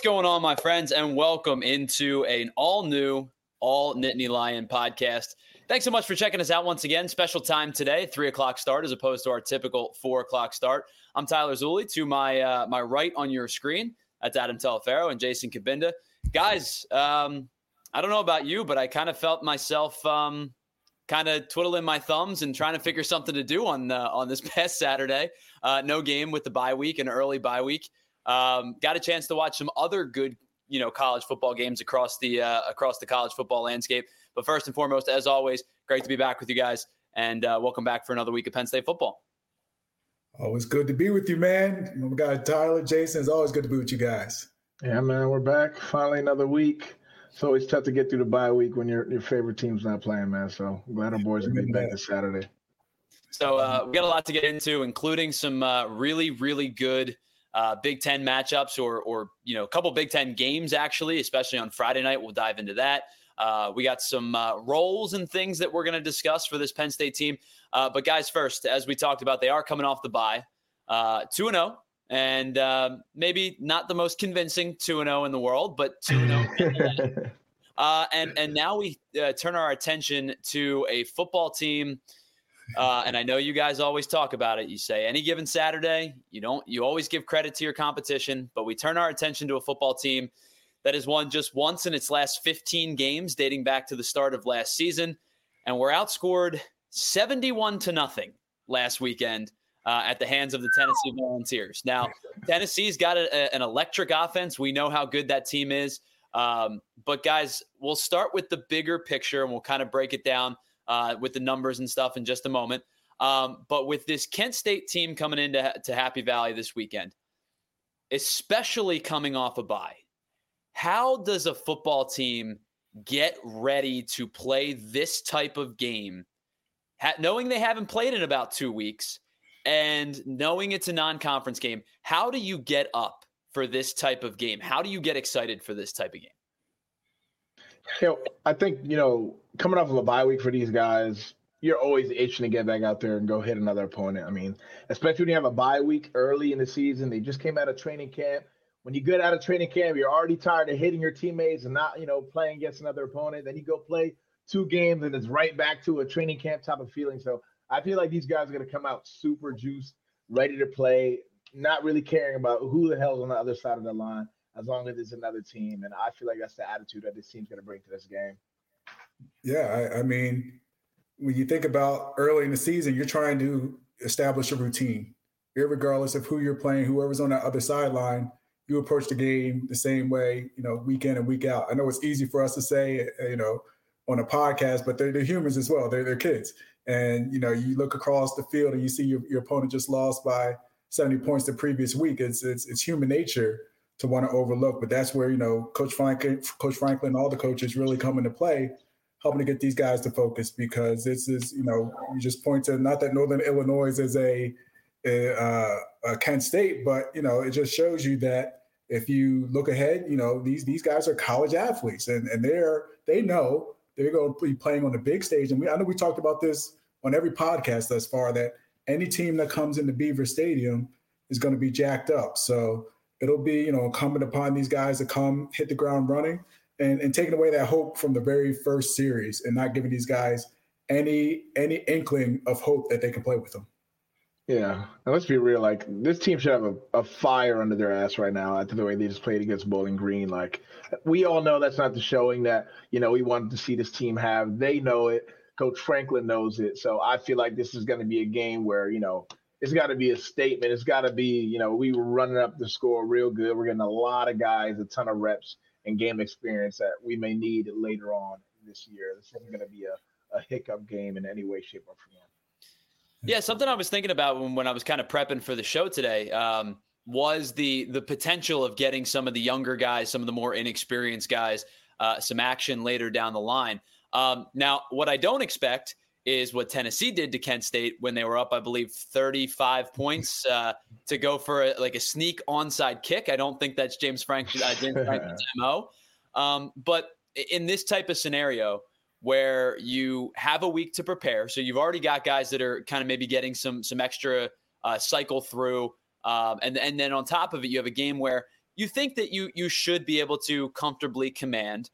going on, my friends, and welcome into an all-new, all-Nittany Lion podcast. Thanks so much for checking us out once again. Special time today, 3 o'clock start as opposed to our typical 4 o'clock start. I'm Tyler Zulli. To my right on your screen, that's Adam Telefero and Jason Kabinda. Guys, I don't know about you, but I kind of felt myself kind of twiddling my thumbs and trying to figure something to do on this past Saturday. No game with the bye week, an early bye week. Got a chance to watch some other good, college football games across the college football landscape. But first and foremost, as always, great to be back with you guys, and welcome back for another week of Penn State football. Always good to be with you, man. We got Tyler, Jason. It's always good to be with you guys. Yeah, man, we're back. Finally another week. It's always tough to get through the bye week when your favorite team's not playing, man. So I'm glad our boys are getting back this Saturday. So we got a lot to get into, including some really, really good Big Ten matchups or a couple Big Ten games, actually, especially on Friday night. We'll dive into that. We got some roles and things that we're going to discuss for this Penn State team. But guys, first, as we talked about, they are coming off the bye, 2-0, and maybe not the most convincing 2-0 in the world, but 2-0. And now we turn our attention to a football team. And I know you guys always talk about it. You say any given Saturday, you always give credit to your competition, but we turn our attention to a football team that has won just once in its last 15 games dating back to the start of last season. And we're outscored 71-0 last weekend at the hands of the Tennessee Volunteers. Now, Tennessee's got an electric offense. We know how good that team is. But guys, we'll start with the bigger picture and we'll kind of break it down with the numbers and stuff in just a moment. But with this Kent State team coming into Happy Valley this weekend, especially coming off a bye, how does a football team get ready to play this type of game, knowing they haven't played in about 2 weeks and knowing it's a non-conference game? How do you get up for this type of game? How do you get excited for this type of game? I think, coming off of a bye week for these guys, you're always itching to get back out there and go hit another opponent. I mean, especially when you have a bye week early in the season. They just came out of training camp. When you get out of training camp, you're already tired of hitting your teammates and not, playing against another opponent. Then you go play 2 games and it's right back to a training camp type of feeling. So I feel like these guys are going to come out super juiced, ready to play, not really caring about who the hell's on the other side of the line, as long as it's another team. And I feel like that's the attitude that this team's going to bring to this game. Yeah, I mean, when you think about early in the season, you're trying to establish a routine. Irregardless of who you're playing, whoever's on that other sideline, you approach the game the same way, week in and week out. I know it's easy for us to say, on a podcast, but they're humans as well. They're kids. And, you look across the field and you see your opponent just lost by 70 points the previous week. It's human nature to want to overlook, but that's where, Coach Franklin, and all the coaches really come into play, helping to get these guys to focus, because this is, you just point to, not that Northern Illinois is a Kent State, but, it just shows you that if you look ahead, these guys are college athletes and they know they're going to be playing on the big stage. And I know we talked about this on every podcast thus far, that any team that comes into Beaver Stadium is going to be jacked up. So it'll be, incumbent upon these guys to come hit the ground running and taking away that hope from the very first series and not giving these guys any inkling of hope that they can play with them. Yeah, and let's be real. Like, this team should have a fire under their ass right now after the way they just played against Bowling Green. Like, we all know that's not the showing that, we wanted to see this team have. They know it. Coach Franklin knows it. So I feel like this is going to be a game where, it's got to be a statement. It's got to be, we were running up the score real good. We're getting a lot of guys, a ton of reps and game experience that we may need later on this year. This isn't going to be a hiccup game in any way, shape, or form. Yeah, something I was thinking about when I was kind of prepping for the show today was the potential of getting some of the younger guys, some of the more inexperienced guys, some action later down the line. Now, what I don't expect is what Tennessee did to Kent State when they were up, I believe, 35 points to go for a sneak onside kick. I don't think that's James Franklin's MO. But in this type of scenario, where you have a week to prepare. So you've already got guys that are kind of maybe getting some extra cycle through. And then on top of it, you have a game where you think that you should be able to comfortably command.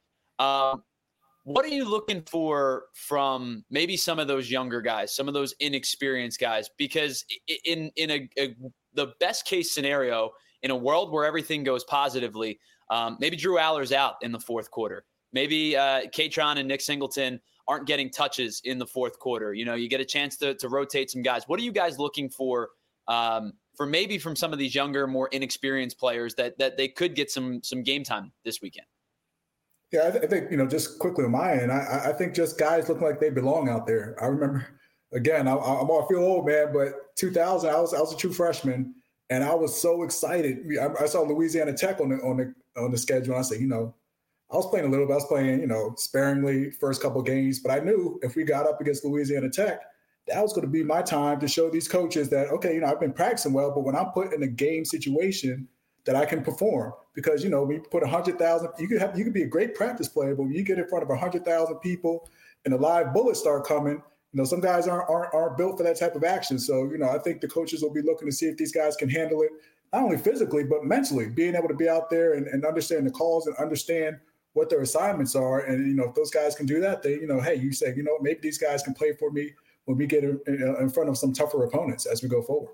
What are you looking for from maybe some of those younger guys, some of those inexperienced guys? Because in the best case scenario, in a world where everything goes positively, maybe Drew Aller's out in the fourth quarter. Maybe Katron and Nick Singleton aren't getting touches in the fourth quarter. You get a chance to rotate some guys. What are you guys looking for maybe from some of these younger, more inexperienced players that they could get some game time this weekend? Yeah, I think, just quickly on my end, I think just guys looking like they belong out there. I remember, again, I feel old, man, but 2000, I was a true freshman, and I was so excited. I saw Louisiana Tech on the schedule, and I said, I was playing a little bit. I was playing, sparingly first couple of games, but I knew if we got up against Louisiana Tech, that was going to be my time to show these coaches that, okay, I've been practicing well, but when I'm put in a game situation, that I can perform. Because, when you put 100,000, you could be a great practice player, but when you get in front of 100,000 people and the live bullets start coming, some guys aren't built for that type of action. So, I think the coaches will be looking to see if these guys can handle it, not only physically, but mentally, being able to be out there and understand the calls and understand what their assignments are. And, if those guys can do that, they, hey, you say, maybe these guys can play for me when we get in front of some tougher opponents as we go forward.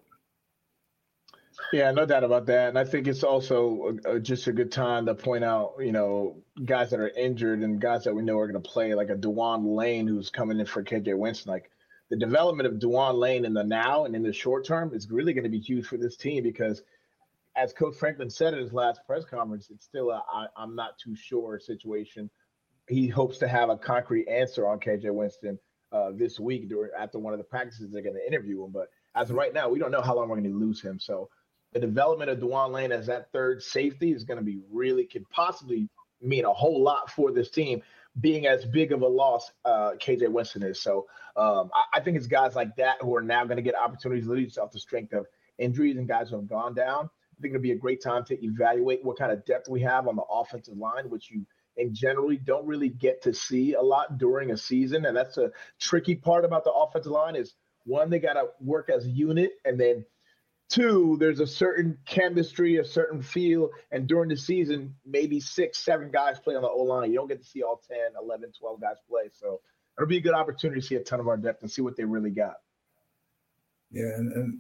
Yeah, no doubt about that. And I think it's also just a good time to point out, guys that are injured and guys that we know are going to play, like a Dewan Lane who's coming in for KJ Winston. Like the development of Dewan Lane in the now and in the short term is really going to be huge for this team because, as Coach Franklin said at his last press conference, it's still I'm not too sure situation. He hopes to have a concrete answer on KJ Winston this week after one of the practices they're going to interview him. But as of right now, we don't know how long we're going to lose him. So the development of Dewan Lane as that third safety is going to be could possibly mean a whole lot for this team, being as big of a loss KJ Winston is. So I think it's guys like that who are now going to get opportunities, literally off the strength of injuries and guys who have gone down. I think it'll be a great time to evaluate what kind of depth we have on the offensive line, which you generally don't really get to see a lot during a season. And that's a tricky part about the offensive line is, one, they got to work as a unit, and then two, there's a certain chemistry, a certain feel, and during the season, maybe 6, 7 guys play on the O-line. You don't get to see all 10, 11, 12 guys play. So it'll be a good opportunity to see a ton of our depth and see what they really got. Yeah, and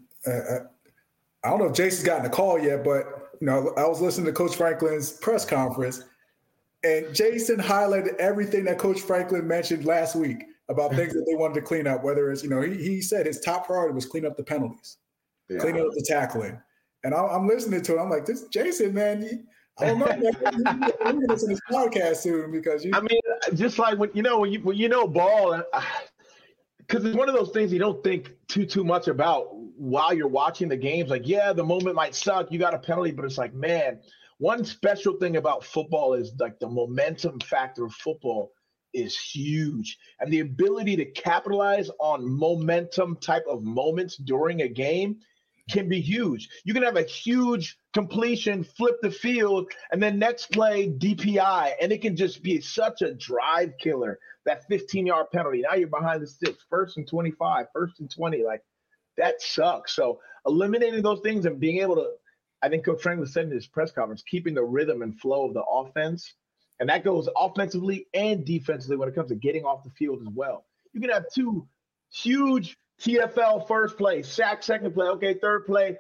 I don't know if Jason's gotten a call yet, but I was listening to Coach Franklin's press conference, and Jason highlighted everything that Coach Franklin mentioned last week about things that they wanted to clean up, whether it's, he said his top priority was clean up the penalties. Yeah. Cleaning up the tackling. And I'm listening to it. I'm like, this Jason, man, I don't know. You're going to listen to this podcast soon because just like when you know ball, because it's one of those things you don't think too much about while you're watching the games. Like, yeah, the moment might suck. You got a penalty, but it's like, man, one special thing about football is like the momentum factor of football is huge. And the ability to capitalize on momentum type of moments during a game can be huge. You can have a huge completion, flip the field, and then next play DPI, and it can just be such a drive killer, that 15-yard penalty. Now you're behind the sticks, 1st and 25, 1st and 20. Like, that sucks. So eliminating those things and being able to, I think Coach Franklin said in his press conference, keeping the rhythm and flow of the offense, and that goes offensively and defensively when it comes to getting off the field as well. You can have 2 huge TFL first play, sack second play, okay, third play,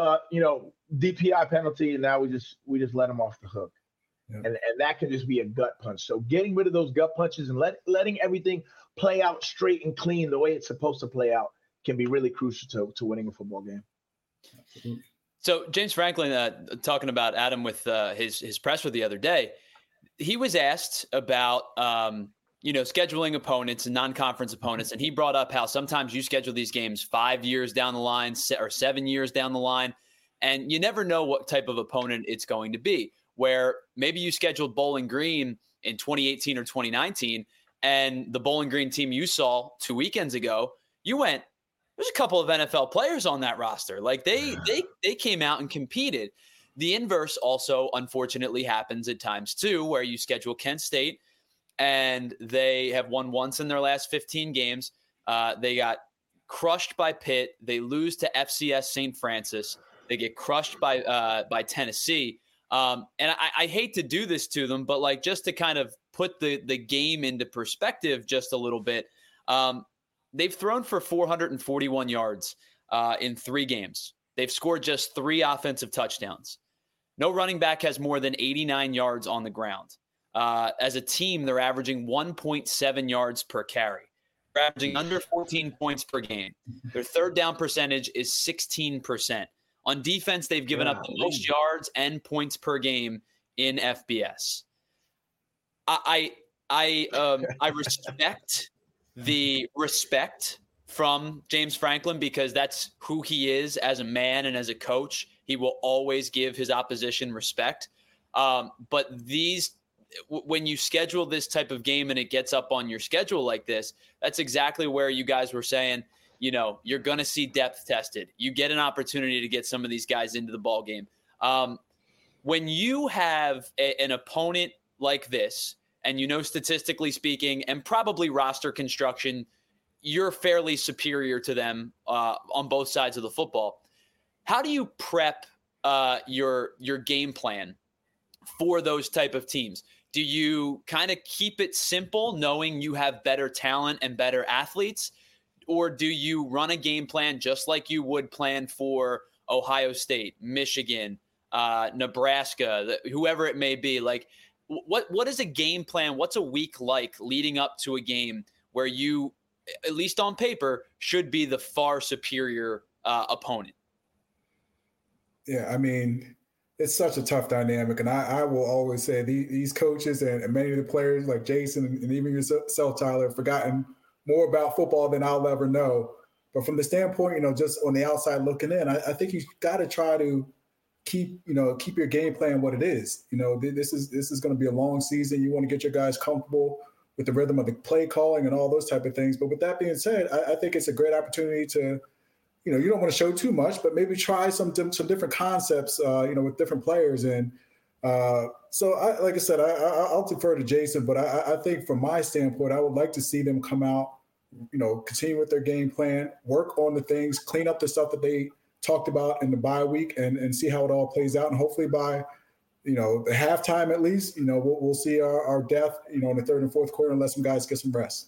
DPI penalty, and now we just let them off the hook. Yeah. And that can just be a gut punch. So getting rid of those gut punches and letting everything play out straight and clean the way it's supposed to play out can be really crucial to winning a football game. So James Franklin, talking about Adam with his presser the other day, he was asked about scheduling opponents and non-conference opponents. And he brought up how sometimes you schedule these games 5 years down the line or 7 years down the line, and you never know what type of opponent it's going to be, where maybe you scheduled Bowling Green in 2018 or 2019, and the Bowling Green team you saw 2 weekends ago, you went, there's a couple of NFL players on that roster. Like they came out and competed. The inverse also unfortunately happens at times too, where you schedule Kent State, and they have won once in their last 15 games. They got crushed by Pitt. They lose to FCS St. Francis. They get crushed by Tennessee. And I hate to do this to them, but like just to kind of put the game into perspective just a little bit, they've thrown for 441 yards in 3 games. They've scored just 3 offensive touchdowns. No running back has more than 89 yards on the ground. As a team, they're averaging 1.7 yards per carry. They're averaging under 14 points per game. Their third down percentage is 16%. On defense, they've given up the most yards and points per game in FBS. I respect the respect from James Franklin because that's who he is as a man and as a coach. He will always give his opposition respect. But when you schedule this type of game and it gets up on your schedule like this, that's exactly where you guys were saying, you're going to see depth tested. You get an opportunity to get some of these guys into the ball game. When you have an opponent like this, and statistically speaking, and probably roster construction, you're fairly superior to them on both sides of the football. How do you prep your game plan for those type of teams? Do you kind of keep it simple, knowing you have better talent and better athletes? Or do you run a game plan just like you would plan for Ohio State, Michigan, Nebraska, whoever it may be? Like, what is a game plan? What's a week like leading up to a game where you, at least on paper, should be the far superior opponent? Yeah, I mean, it's such a tough dynamic. And I will always say these coaches and many of the players like Jason and even yourself, Tyler, have forgotten more about football than I'll ever know. But from the standpoint, just on the outside looking in, I think you've got to try to keep your game plan what it is. This is going to be a long season. You want to get your guys comfortable with the rhythm of the play calling and all those type of things. But with that being said, I think it's a great opportunity to, you don't want to show too much, but maybe try some different concepts, with different players. And so, like I said, I'll defer to Jason, but I think from my standpoint, I would like to see them come out, continue with their game plan, work on the things, clean up the stuff that they talked about in the bye week, and see how it all plays out. And hopefully by, the halftime at least, we'll see our depth, in the third and fourth quarter and let some guys get some rest.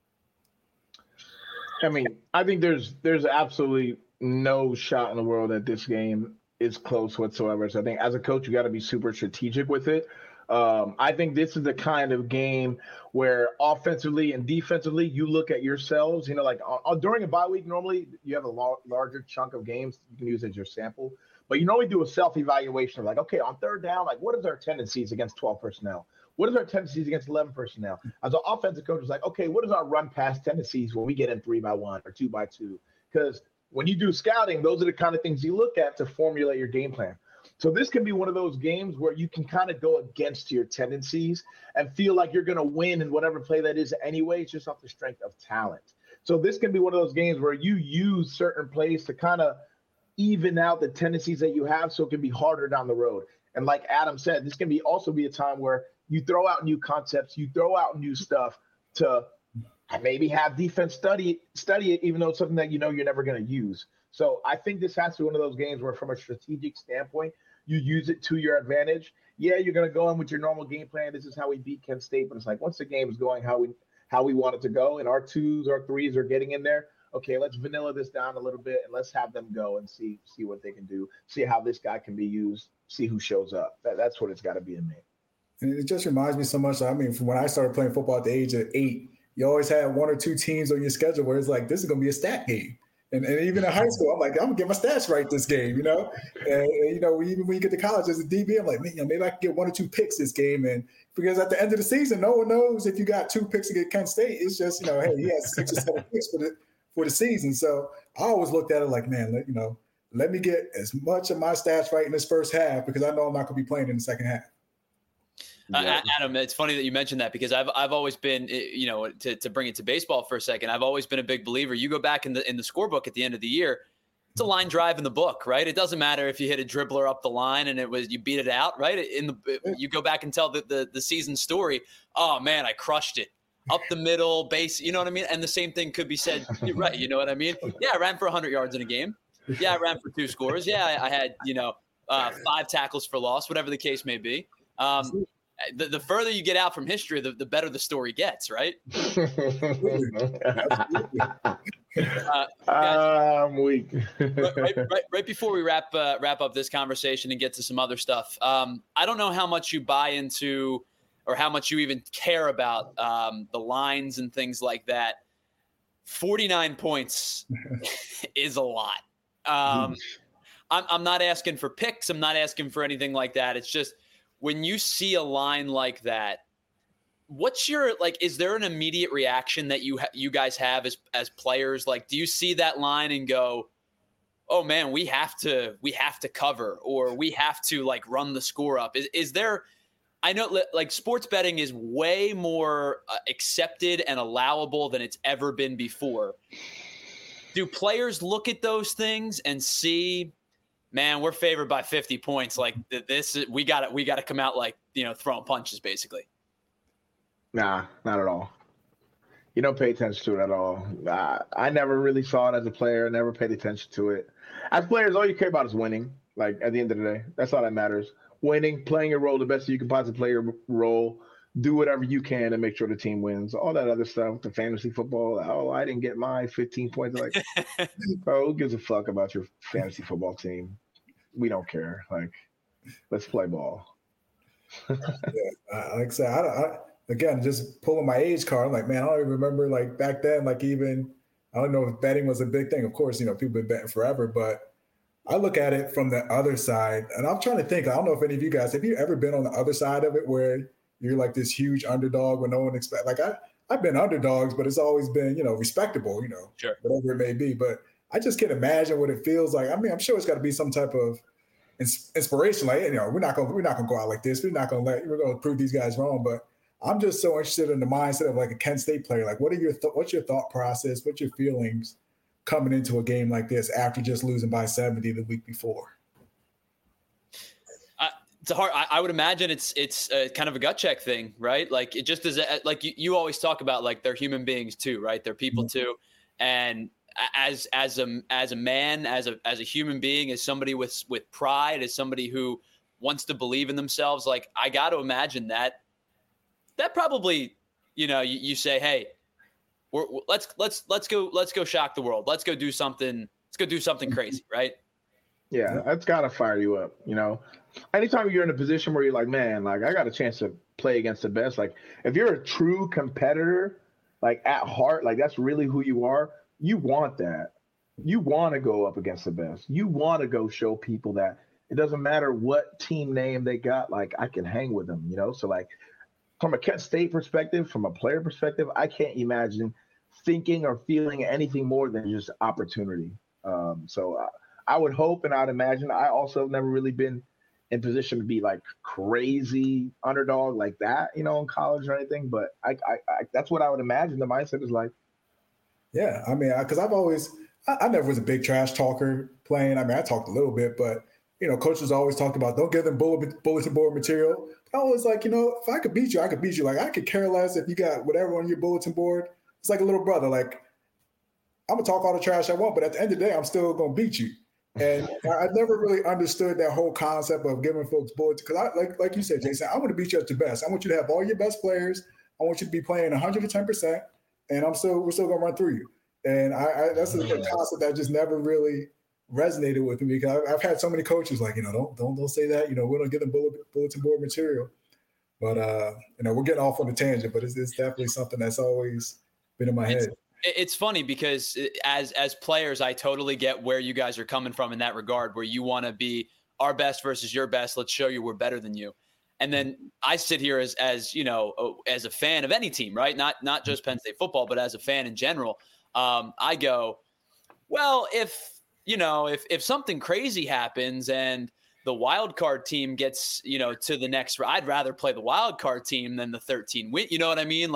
I mean, I think there's absolutely no shot in the world that this game is close whatsoever. So I think as a coach, you got to be super strategic with it. I think this is the kind of game where offensively and defensively, you look at yourselves, like during a bye week, normally you have a larger chunk of games you can use as your sample, but you normally do a self-evaluation of like, okay, on third down, like what is our tendencies against 12 personnel? What is our tendencies against 11 personnel? As an offensive coach, it's like, okay, what is our run pass tendencies when we get in 3-by-1 or 2-by-2? Because when you do scouting, those are the kind of things you look at to formulate your game plan. So this can be one of those games where you can kind of go against your tendencies and feel like you're going to win in whatever play that is anyway. It's just off the strength of talent. So this can be one of those games where you use certain plays to kind of even out the tendencies that you have so it can be harder down the road. And like Adam said, this can also be a time where you throw out new concepts, you throw out new stuff to maybe have defense study it, even though it's something that you're never going to use. So I think this has to be one of those games where from a strategic standpoint, you use it to your advantage. Yeah, you're going to go in with your normal game plan. This is how we beat Kent State. But it's like once the game is going how we want it to go and our 2s, our 3s are getting in there, okay, let's vanilla this down a little bit and let's have them go and see what they can do, see how this guy can be used, see who shows up. That's what it's got to be to me. And it just reminds me so much. I mean, from when I started playing football at the age of 8, you always had 1 or 2 teams on your schedule where it's like, this is going to be a stat game. And even in high school, I'm like, I'm going to get my stats right this game, And even when you get to college as a DB, I'm like, man, maybe I can get 1 or 2 picks this game. And because at the end of the season, no one knows if you got 2 picks against Kent State. It's just, hey, he has 6 or 7 picks for the season. So I always looked at it like, man, let me get as much of my stats right in this first half because I know I'm not going to be playing in the second half. Adam, it's funny that you mentioned that because I've always been, to bring it to baseball for a second, I've always been a big believer. You go back in the scorebook at the end of the year, it's a line drive in the book, right? It doesn't matter if you hit a dribbler up the line and you beat it out, right? You go back and tell the season story. Oh man, I crushed it up the middle base. You know what I mean? And the same thing could be said, right? You know what I mean? Yeah, I ran for 100 yards in a game. Yeah, I ran for 2 scores. Yeah, I had, 5 tackles for loss, whatever the case may be. The further you get out from history, the better the story gets, right? I'm weak. right before we wrap up this conversation and get to some other stuff, I don't know how much you buy into or how much you even care about the lines and things like that. 49 points is a lot. I'm not asking for picks. I'm not asking for anything like that. It's just when you see a line like that, what's your is there an immediate reaction that you guys have as players? Like, do you see that line and go, oh man, we have to cover, or we have to run the score up? Is there, I know sports betting is way more accepted and allowable than it's ever been before. Do players look at those things and see, man, we're favored by 50 points. We got to come out throwing punches basically. Nah, not at all. You don't pay attention to it at all. I never really saw it as a player. Never paid attention to it. As players, all you care about is winning. At the end of the day, that's all that matters. Winning, playing your role the best you can possibly play your role. Do whatever you can to make sure the team wins. All that other stuff, the fantasy football. Oh, I didn't get my 15 points. Bro, who gives a fuck about your fantasy football team? We don't care. Let's play ball. Like I said, again, just pulling my age card. I'm like, man, I don't even remember back then, even, I don't know if betting was a big thing. Of course, people have been betting forever, but I look at it from the other side and I'm trying to think, I don't know if any of you guys, have you ever been on the other side of it where you're this huge underdog when no one expects, I've been underdogs, but it's always been, respectable, sure, whatever it may be. But I just can't imagine what it feels like. I mean, I'm sure it's got to be some type of inspiration. We're not going to go out like this. We're going to prove these guys wrong. But I'm just so interested in the mindset of a Kent State player. What's your thought process? What's your feelings coming into a game like this after just losing by 70 the week before? It's hard. I would imagine it's kind of a gut check thing, right? It just is you always talk about they're human beings too, right? They're people mm-hmm. too. And as a man, as a human being, as somebody with pride, as somebody who wants to believe in themselves, I got to imagine that probably, you say, hey, let's go shock the world. Let's go do something crazy, right? Yeah, that's gotta fire you up. Anytime you're in a position where you're like, man, I got a chance to play against the best. If you're a true competitor, at heart, that's really who you are. You want that. You want to go up against the best. You want to go show people that it doesn't matter what team name they got. I can hang with them. So from a Kent State perspective, from a player perspective, I can't imagine thinking or feeling anything more than just opportunity. So I would hope and I'd imagine. I also have never really been in position to be crazy underdog like that, in college or anything. But I that's what I would imagine the mindset is like. Yeah, I mean, because I never was a big trash talker playing. I mean, I talked a little bit, but coaches always talked about don't give them bulletin board material. I was like, if I could beat you, I could beat you. I could care less if you got whatever on your bulletin board. It's like a little brother. I'm gonna talk all the trash I want, but at the end of the day, I'm still gonna beat you. And I never really understood that whole concept of giving folks bullets because like you said, Jason, I want to beat you at your best. I want you to have all your best players. I want you to be playing 110%, and we're still gonna run through you. And that's a concept that just never really resonated with me because I've had so many coaches don't say that. We don't give them bulletin board material. But we're getting off on a tangent, but it's definitely something that's always been in my head. It's funny because as players, I totally get where you guys are coming from in that regard, where you want to be our best versus your best. Let's show you we're better than you. And then I sit here as a fan of any team, right? Not just Penn State football, but as a fan in general. I go, well, if something crazy happens and the wild card team gets, to the next, I'd rather play the wild card team than the 13 win. You know what I mean?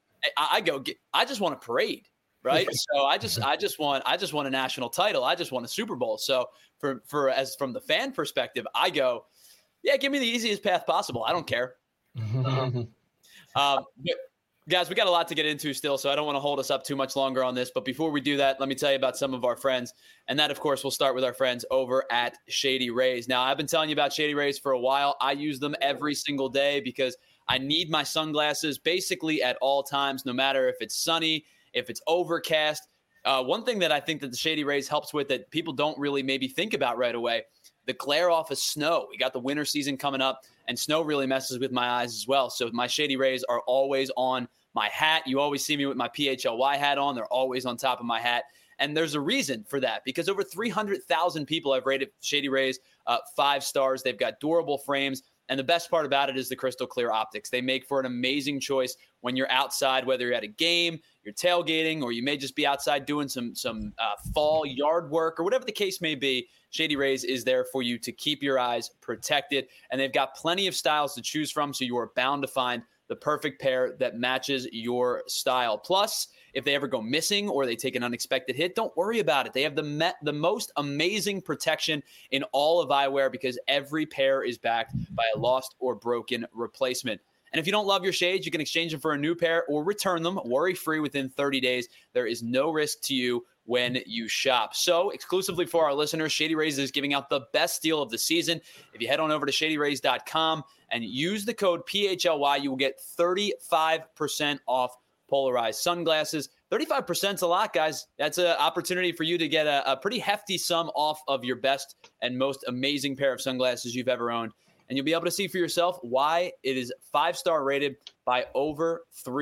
I just want a parade, right? So I just want a national title. I just want a Super Bowl. So from the fan perspective, I go, yeah, give me the easiest path possible. I don't care. Guys, we got a lot to get into still, so I don't want to hold us up too much longer on this. But before we do that, let me tell you about some of our friends. And that, of course, we'll start with our friends over at Shady Rays. Now, I've been telling you about Shady Rays for a while. I use them every single day because I need my sunglasses basically at all times, no matter if it's sunny, if it's overcast. One thing that I think that the Shady Rays helps with that people don't really maybe think about right away, the glare off of snow. We got the winter season coming up, and snow really messes with my eyes as well. So my Shady Rays are always on my hat. You always see me with my PHLY hat on. They're always on top of my hat. And there's a reason for that, because over 300,000 people have rated Shady Rays 5 stars. They've got durable frames. And the best part about it is the crystal clear optics. They make for an amazing choice when you're outside, whether you're at a game, you're tailgating, or you may just be outside doing some fall yard work or whatever the case may be. Shady Rays is there for you to keep your eyes protected. And they've got plenty of styles to choose from, so you are bound to find the perfect pair that matches your style. Plus, if they ever go missing or they take an unexpected hit, don't worry about it. They have the most amazing protection in all of eyewear because every pair is backed by a lost or broken replacement. And if you don't love your shades, you can exchange them for a new pair or return them worry-free within 30 days. There is no risk to you when you shop. So exclusively for our listeners, Shady Rays is giving out the best deal of the season. If you head on over to shadyrays.com and use the code PHLY, you will get 35% off polarized sunglasses. 35% is a lot, guys. That's an opportunity for you to get a pretty hefty sum off of your best and most amazing pair of sunglasses you've ever owned. And you'll be able to see for yourself why it is 5-star rated by over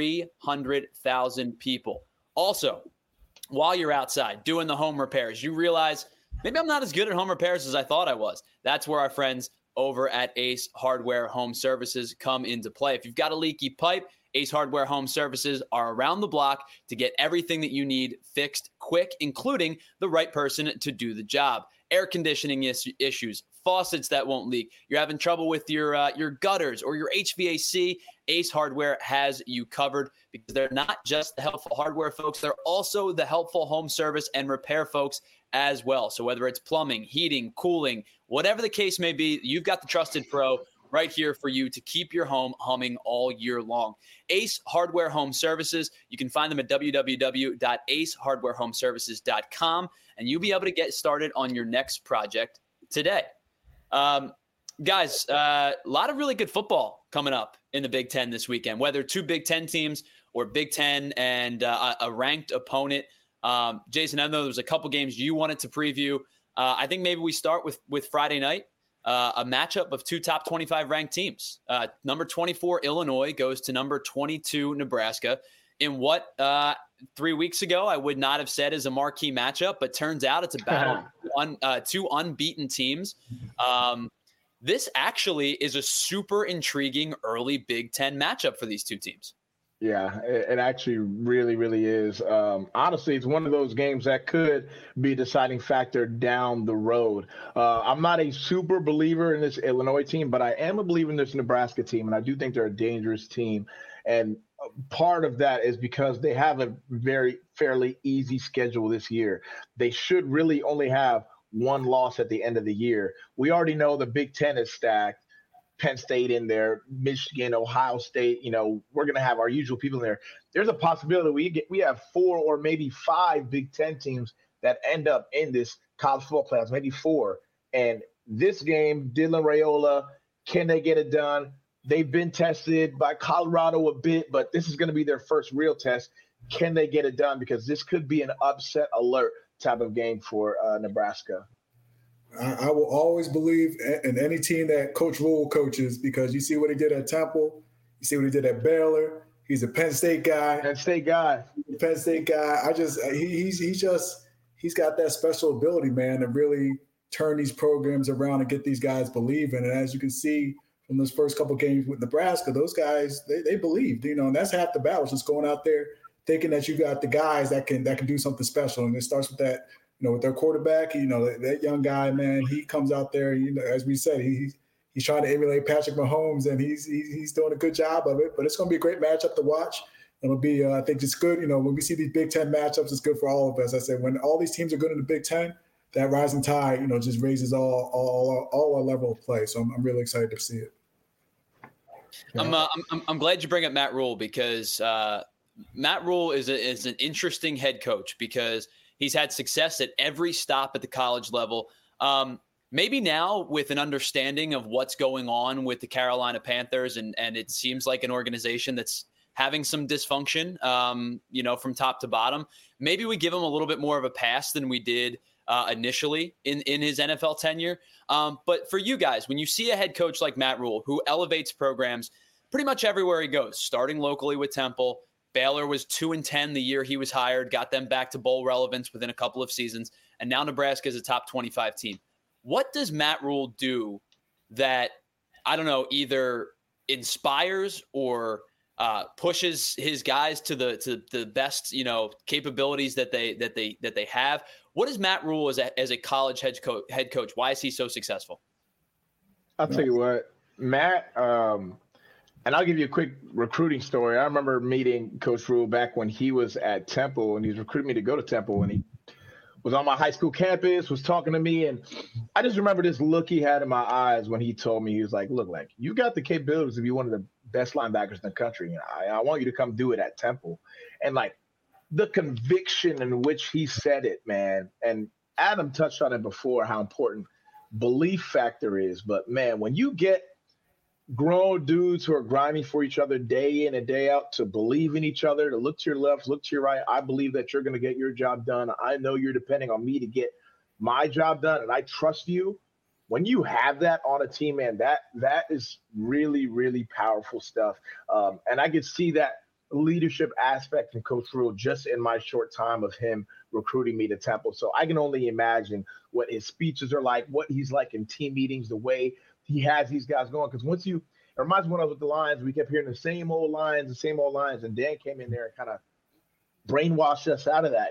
300,000 people. Also, while you're outside doing the home repairs, you realize maybe I'm not as good at home repairs as I thought I was. That's where our friends over at Ace Hardware Home Services come into play. If you've got a leaky pipe, Ace Hardware Home Services are around the block to get everything that you need fixed quick, including the right person to do the job. Air conditioning issues, faucets that won't leak, you're having trouble with your gutters or your HVAC, Ace Hardware has you covered because they're not just the helpful hardware folks, they're also the helpful home service and repair folks as well. So whether it's plumbing, heating, cooling, whatever the case may be, you've got the trusted pro right here for you to keep your home humming all year long. Ace Hardware Home Services, you can find them at www.acehardwarehomeservices.com, and you'll be able to get started on your next project today. Guys, a lot of really good football coming up in the Big Ten this weekend, whether 2 Big Ten teams or Big Ten and a ranked opponent. Jason, I know there's a couple games you wanted to preview. I think maybe we start with Friday night. A matchup of 2 top 25 ranked teams. Number 24, Illinois, goes to number 22, Nebraska. In what 3 weeks ago I would not have said is a marquee matchup, but turns out it's a battle on 2 unbeaten teams. This actually is a super intriguing early Big Ten matchup for these 2 teams. Yeah, it actually really, really is. Honestly, it's one of those games that could be a deciding factor down the road. I'm not a super believer in this Illinois team, but I am a believer in this Nebraska team, and I do think they're a dangerous team. And part of that is because they have a fairly easy schedule this year. They should really only have 1 loss at the end of the year. We already know the Big Ten is stacked. Penn State in there, Michigan, Ohio State, we're going to have our usual people in there. There's a possibility we have 4 or maybe 5 Big Ten teams that end up in this college football playoffs, maybe 4. And this game, Dylan Raiola, can they get it done? They've been tested by Colorado a bit, but this is going to be their first real test. Can they get it done? Because this could be an upset alert type of game for Nebraska. I will always believe in any team that Coach Rule coaches because you see what he did at Temple. You see what he did at Baylor. He's a Penn State guy. Penn State guy. He's got that special ability, man, to really turn these programs around and get these guys believing. And as you can see from those first couple games with Nebraska, those guys, they believed, and that's half the battle, just going out there thinking that you got the guys that can do something special. And it starts with that, with their quarterback, that young guy, man, he comes out there, as we said, he's trying to emulate Patrick Mahomes, and he's doing a good job of it. But it's going to be a great matchup to watch. It'll be, I think, just good. When we see these Big Ten matchups, it's good for all of us. I said, when all these teams are good in the Big Ten, that rising tide, just raises all our level of play. So I'm really excited to see it. I'm glad you bring up Matt Rule because Matt Rule is an interesting head coach because he's had success at every stop at the college level. Maybe now with an understanding of what's going on with the Carolina Panthers, and it seems like an organization that's having some dysfunction, from top to bottom. Maybe we give him a little bit more of a pass than we did initially in his NFL tenure. But for you guys, when you see a head coach like Matt Rule, who elevates programs pretty much everywhere he goes, starting locally with Temple, Baylor was 2-10 the year he was hired, got them back to bowl relevance within a couple of seasons, and now Nebraska is a top 25 team. What does Matt Rule do that, I don't know, either inspires or pushes his guys to the best, capabilities that they have? What is Matt Rule as a college head coach? Why is he so successful? I'll tell you what, Matt, and I'll give you a quick recruiting story. I remember meeting Coach Rule back when he was at Temple, and he was recruiting me to go to Temple, and he was on my high school campus, was talking to me, and I just remember this look he had in my eyes when he told me, he was like, look, like, you got the capabilities to be one of the best linebackers in the country, and I want you to come do it at Temple. And, like, the conviction in which he said it, man, and Adam touched on it before, how important belief factor is. But, man, when you get grown dudes who are grinding for each other day in and day out to believe in each other, to look to your left, look to your right. I believe that you're going to get your job done. I know you're depending on me to get my job done, and I trust you. When you have that on a team, man, that is really, really powerful stuff. And I could see that leadership aspect in Coach Rule just in my short time of him recruiting me to Temple. So I can only imagine what his speeches are like, what he's like in team meetings, the way he has these guys going. Because it reminds me when I was with the Lions, we kept hearing the same old lines, and Dan came in there and kind of brainwashed us out of that.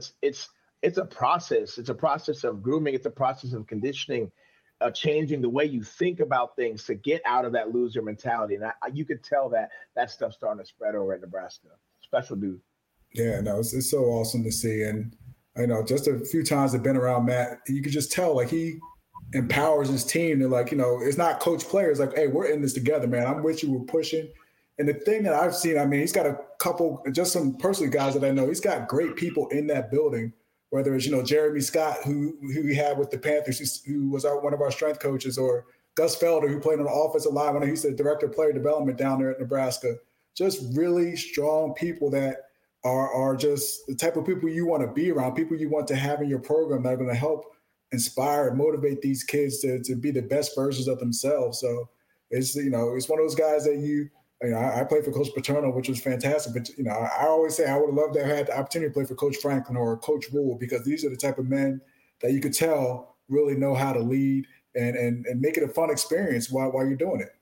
It's a process. It's a process of grooming. It's a process of conditioning, changing the way you think about things to get out of that loser mentality. And you could tell that stuff's starting to spread over at Nebraska. Special dude. Yeah, no, it's so awesome to see. And just a few times I've been around Matt, you could just tell like he empowers his team to it's not coach players like, hey, we're in this together, man. I'm with you. We're pushing. And the thing that I've seen, he's got a couple, just some personal guys that I know. He's got great people in that building, whether it's, Jeremy Scott, who he had with the Panthers, who was one of our strength coaches, or Gus Felder, who played on the offensive line when he's the director of player development down there at Nebraska. Just really strong people that are just the type of people you want to be around, people you want to have in your program that are going to help inspire and motivate these kids to be the best versions of themselves. So it's, it's one of those guys that I played for Coach Paterno, which was fantastic. But, I always say I would have loved to have had the opportunity to play for Coach Franklin or Coach Rule, because these are the type of men that you could tell really know how to lead and make it a fun experience while you're doing it.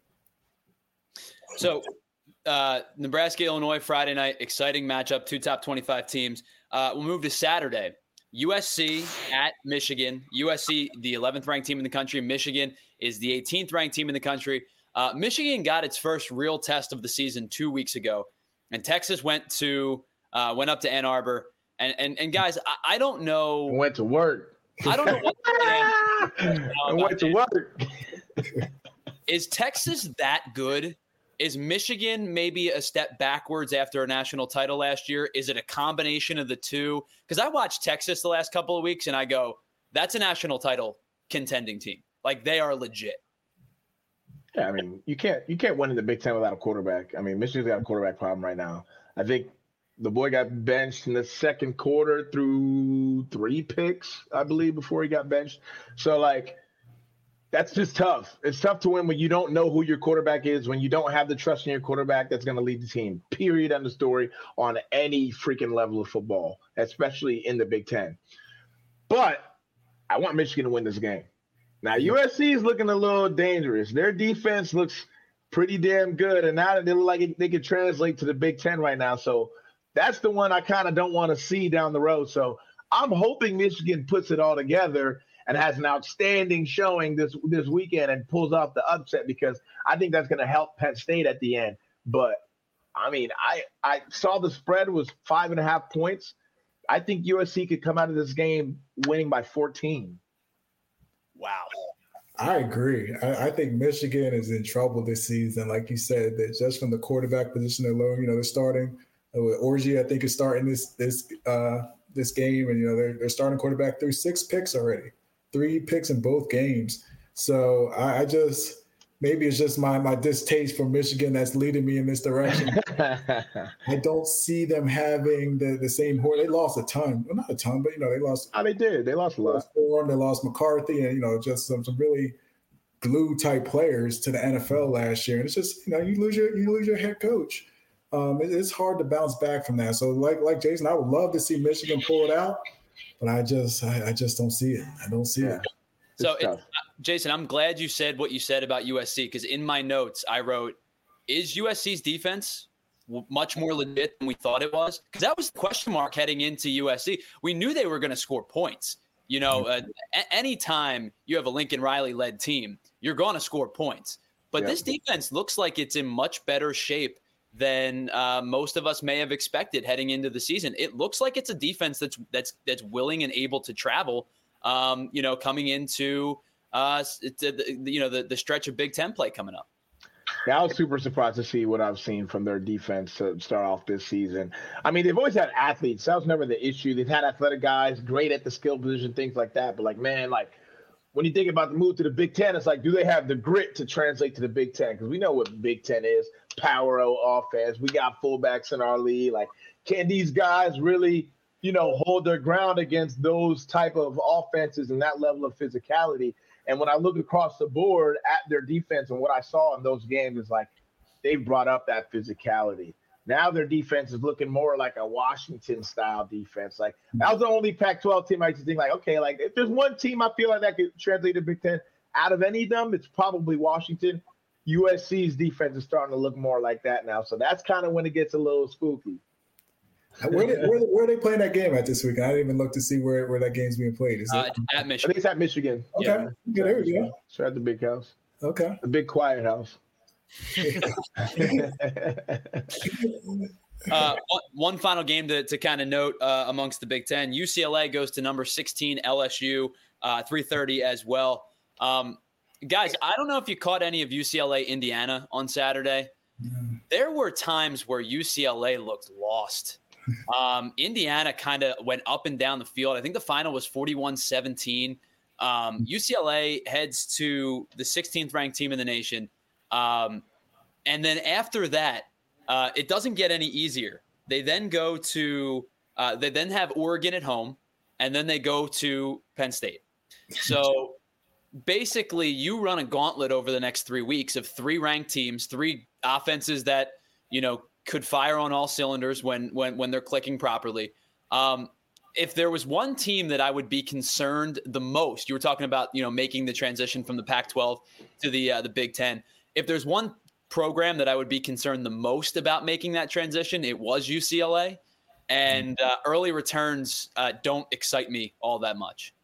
So Nebraska, Illinois, Friday night, exciting matchup, two top 25 teams. We'll move to Saturday. USC at Michigan. USC, the 11th ranked team in the country. Michigan is the 18th ranked team in the country. Michigan got its first real test of the season 2 weeks ago, and Texas went up to Ann Arbor. And guys, I don't know. Went to work. I don't know what went to work. Is Texas that good? Is Michigan maybe a step backwards after a national title last year? Is it a combination of the two? Because I watched Texas the last couple of weeks, and I go, that's a national title contending team. Like, they are legit. Yeah, you can't win in the Big Ten without a quarterback. Michigan's got a quarterback problem right now. I think the boy got benched in the second quarter through 3 picks, I believe, before he got benched. So, that's just tough. It's tough to win when you don't know who your quarterback is, when you don't have the trust in your quarterback that's going to lead the team, period, end of story, on any freaking level of football, especially in the Big Ten. But I want Michigan to win this game. Now, USC is looking a little dangerous. Their defense looks pretty damn good, and now they look like they could translate to the Big Ten right now. So that's the one I kind of don't want to see down the road. So I'm hoping Michigan puts it all together and has an outstanding showing this weekend and pulls off the upset, because I think that's going to help Penn State at the end. But, I saw the spread was 5.5 points. I think USC could come out of this game winning by 14. Wow. I agree. I think Michigan is in trouble this season. Like you said, that just from the quarterback position alone, they're starting with Orji, I think, is starting this game, and they're starting quarterback through 6 picks already, 3 picks in both games. So I just maybe it's just my distaste for Michigan that's leading me in this direction. I don't see them having the same horse. They lost a ton. Well, not a ton, but they lost. Oh, they did. They lost a lot. They lost McCarthy, and just some really glue type players to the NFL last year. And it's just you lose your head coach. It's hard to bounce back from that. So like Jason, I would love to see Michigan pull it out, but I just don't see it. I don't see it. So, Jason, I'm glad you said what you said about USC, because in my notes I wrote, is USC's defense much more legit than we thought it was? Because that was the question mark heading into USC. We knew they were going to score points. Anytime you have a Lincoln Riley-led team, you're going to score points. But this defense looks like it's in much better shape than most of us may have expected heading into the season. It looks like it's a defense that's willing and able to travel. Coming into the stretch of Big Ten play coming up. Yeah, I was super surprised to see what I've seen from their defense to start off this season. I mean, they've always had athletes. That was never the issue. They've had athletic guys, great at the skill position, things like that. But when you think about the move to the Big Ten, it's do they have the grit to translate to the Big Ten? Because we know what Big Ten is, power offense. We got fullbacks in our league. Can these guys really hold their ground against those type of offenses and that level of physicality? And when I look across the board at their defense and what I saw in those games is they've brought up that physicality. Now their defense is looking more like a Washington-style defense. That was the only Pac-12 team I used to think if there's one team I feel like that could translate to Big Ten, out of any of them, it's probably Washington. USC's defense is starting to look more like that now. So that's kind of when it gets a little spooky. Where are they playing that game at this weekend? I didn't even look to see where that game's being played. Is it at Michigan? I think it's at Michigan. Okay. Yeah, there we go. So at the big house. Okay. The big quiet house. One final game to kind of note amongst the Big Ten. UCLA goes to number 16 LSU, 3:30 as well. Guys, I don't know if you caught any of UCLA Indiana on Saturday. There were times where UCLA looked lost. Indiana kind of went up and down the field. I think the final was 41-17. UCLA heads to the 16th ranked team in the nation. And then after that, it doesn't get any easier. They then go to they then have Oregon at home, and then they go to Penn State. So basically you run a gauntlet over the next 3 weeks of 3 ranked teams, 3 offenses that, could fire on all cylinders when they're clicking properly. If there was one team that I would be concerned the most, you were talking about, making the transition from the Pac-12 to the Big Ten. If there's one program that I would be concerned the most about making that transition, it was UCLA. And early returns don't excite me all that much.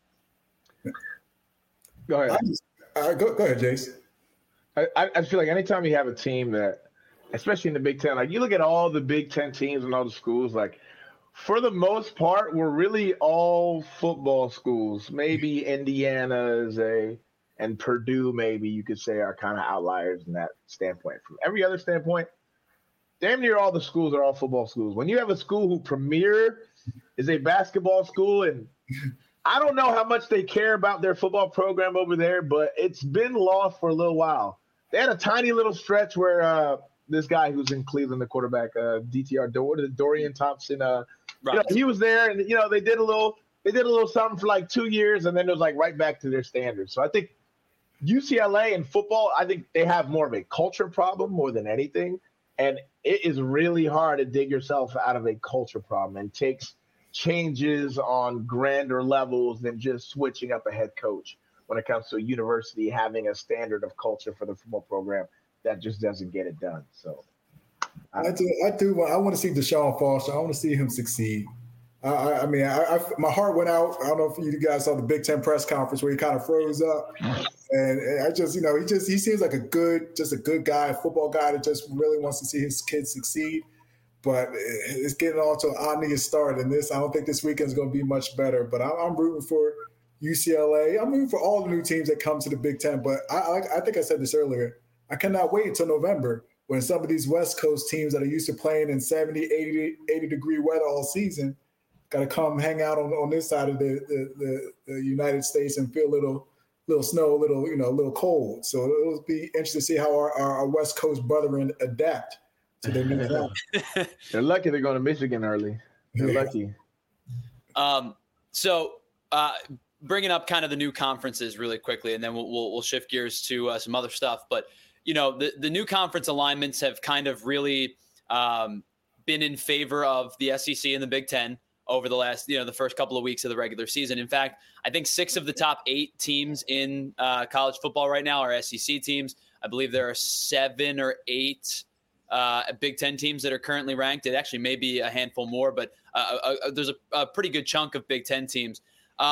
Go ahead. Go ahead, Jace. I feel like anytime you have a team that, especially in the Big Ten, you look at all the Big Ten teams and all the schools, for the most part, we're really all football schools. Maybe Indiana and Purdue, maybe you could say, are kind of outliers in that standpoint. From every other standpoint, damn near all the schools are all football schools. When you have a school who premier is a basketball school, and I don't know how much they care about their football program over there, but it's been lost for a little while. They had a tiny little stretch where this guy who's in Cleveland, the quarterback, Dorian Thompson, he was there, and they did a little something for 2 years, and then it was right back to their standards. So I think UCLA in football, I think they have more of a culture problem more than anything, and it is really hard to dig yourself out of a culture problem, and takes changes on grander levels than just switching up a head coach when it comes to a university having a standard of culture for the football program that just doesn't get it done. So I do. I want to see Deshaun Foster. I want to see him succeed. I mean, my heart went out. I don't know if you guys saw the Big Ten press conference where he kind of froze up, and I just, he seems like a good guy, a football guy that just really wants to see his kids succeed. But it's getting off to an ominous start, and I don't think this weekend is going to be much better. But I'm rooting for UCLA. I'm rooting for all the new teams that come to the Big Ten. But I think I said this earlier. I cannot wait until November when some of these West Coast teams that are used to playing in 70, 80-degree weather all season got to come hang out on this side of the United States and feel a little snow, little cold. So it'll be interesting to see how our West Coast brethren adapt to their new climate. They're lucky they're going to Michigan early. They're lucky. So bringing up kind of the new conferences really quickly, and then we'll shift gears to some other stuff. But the new conference alignments have kind of really been in favor of the SEC and the Big Ten over the last, the first couple of weeks of the regular season. In fact, I think 6 of the top 8 teams in college football right now are SEC teams. I believe there are 7 or 8 Big Ten teams that are currently ranked. It actually may be a handful more, but there's a pretty good chunk of Big Ten teams.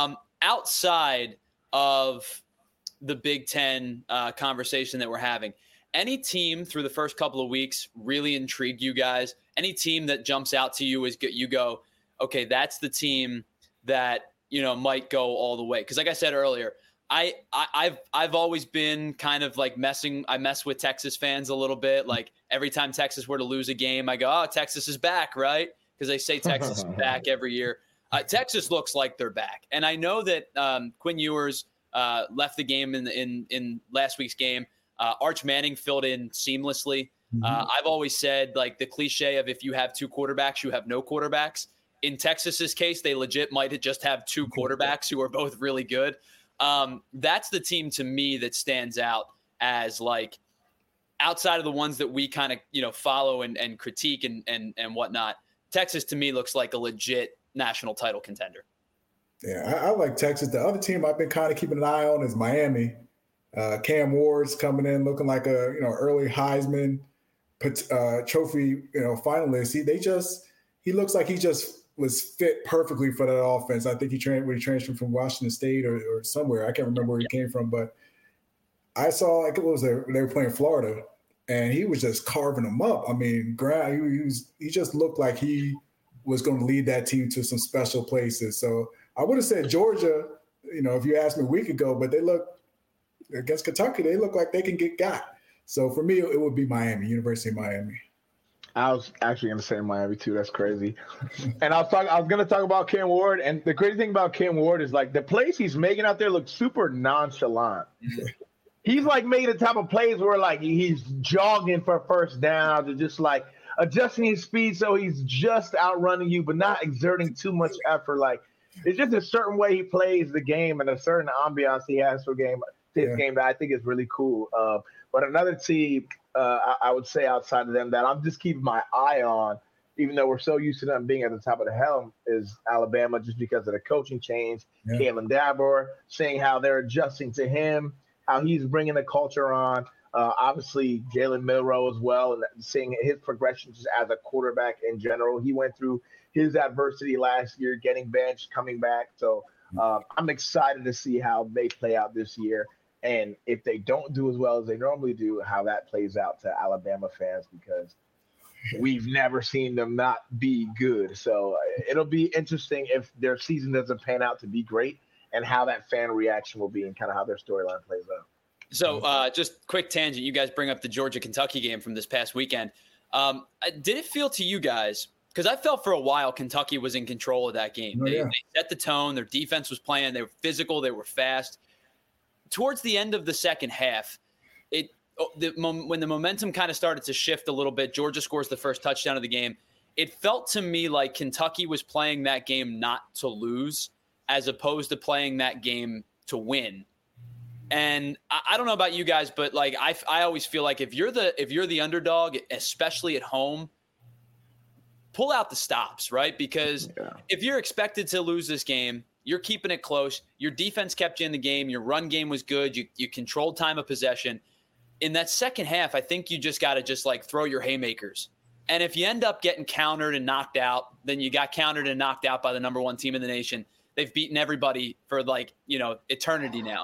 Outside of the Big Ten conversation that we're having, any team through the first couple of weeks really intrigued you guys? Any team that jumps out to you as you go, okay, that's the team that, might go all the way? Because like I said earlier, I've always been kind of like I mess with Texas fans a little bit. Like every time Texas were to lose a game, I go, oh, Texas is back, right? Because they say Texas is back every year. Texas looks like they're back. And I know that Quinn Ewers left the game in last week's game. Arch Manning filled in seamlessly. I've always said, like, the cliche of if you have 2 quarterbacks, you have no quarterbacks. In Texas's case, they legit might just have 2 quarterbacks who are both really good. That's the team to me that stands out as, like, outside of the ones that we kind of, follow and critique and whatnot. Texas to me looks like a legit national title contender. Yeah, I like Texas. The other team I've been kind of keeping an eye on is Miami. Cam Ward's coming in looking like a early Heisman trophy finalist. He looks like he just was fit perfectly for that offense. I think he transferred from Washington State or somewhere. I can't remember where he came from, but I saw they were playing Florida, and he was just carving them up. I mean, he just looked like he was going to lead that team to some special places. So I would have said Georgia, if you asked me a week ago, but they look against Kentucky, they look like they can get got. So for me, it would be Miami, University of Miami. I was actually going to say Miami too. That's crazy. And I was going to talk about Cam Ward. And the crazy thing about Cam Ward is, like, the plays he's making out there look super nonchalant. He's like making the type of plays where, like, he's jogging for first down, or just like adjusting his speed so he's just outrunning you, but not exerting too much effort. Like, it's just a certain way he plays the game and a certain ambiance he has for game that I think is really cool. But another team, I would say outside of them that I'm just keeping my eye on, even though we're so used to them being at the top of the helm, is Alabama, just because of the coaching change. Yeah. Kalen Dabber, seeing how they're adjusting to him, how he's bringing the culture on. Obviously, Jalen Milroe as well, and seeing his progression just as a quarterback in general. He went through his adversity last year, getting benched, coming back. So I'm excited to see how they play out this year. And if they don't do as well as they normally do, how that plays out to Alabama fans, because we've never seen them not be good. So it'll be interesting if their season doesn't pan out to be great, and how that fan reaction will be and kind of how their storyline plays out. So just quick tangent. You guys bring up the Georgia-Kentucky game from this past weekend. Did it feel to you guys, because I felt for a while Kentucky was in control of that game. They set the tone. Their defense was playing. They were physical. They were fast. Towards the end of the second half, when the momentum kind of started to shift a little bit, Georgia scores the first touchdown of the game. It felt to me like Kentucky was playing that game not to lose, as opposed to playing that game to win. And I don't know about you guys, but, like, I always feel like if you're the underdog, especially at home, pull out the stops, right? Because if you're expected to lose this game, you're keeping it close. Your defense kept you in the game. Your run game was good. You controlled time of possession. In that second half, I think you just got to throw your haymakers. And if you end up getting countered and knocked out, then you got countered and knocked out by the number 1 team in the nation. They've beaten everybody for, eternity now.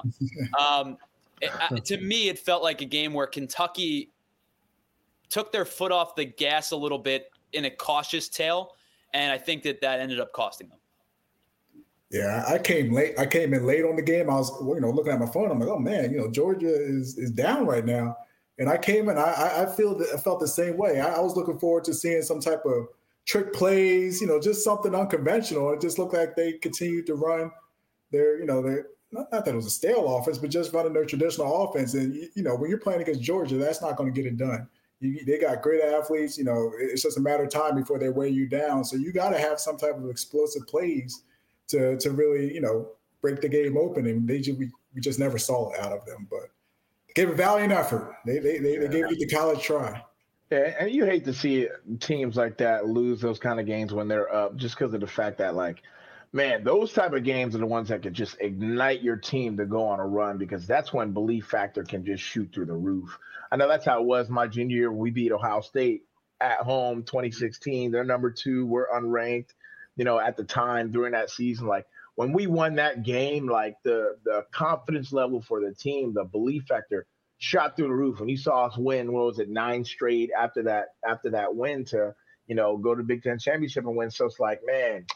To me, it felt like a game where Kentucky took their foot off the gas a little bit in a cautious tail, and I think that ended up costing them. Yeah, I came late. I came in late on the game. I was, looking at my phone. I'm like, oh man, Georgia is down right now. And I came in. I felt the same way. I was looking forward to seeing some type of trick plays. Just something unconventional. It just looked like they continued to run their, not that it was a stale offense, but just running their traditional offense. And when you're playing against Georgia, that's not going to get it done. They got great athletes. It's just a matter of time before they weigh you down. So you got to have some type of explosive plays to really, break the game open. And we just never saw it out of them. But they gave a valiant effort. They gave it the college try. Yeah, and you hate to see teams like that lose those kind of games when they're up, just because of the fact that, like, man, those type of games are the ones that could just ignite your team to go on a run, because that's when belief factor can just shoot through the roof. I know that's how it was my junior year when we beat Ohio State at home, 2016. They're number 2. We're unranked. At the time during that season, like when we won that game, like the confidence level for the team, the belief factor shot through the roof. When you saw us win, 9 straight after that win to, go to Big Ten championship and win. So it's like, man,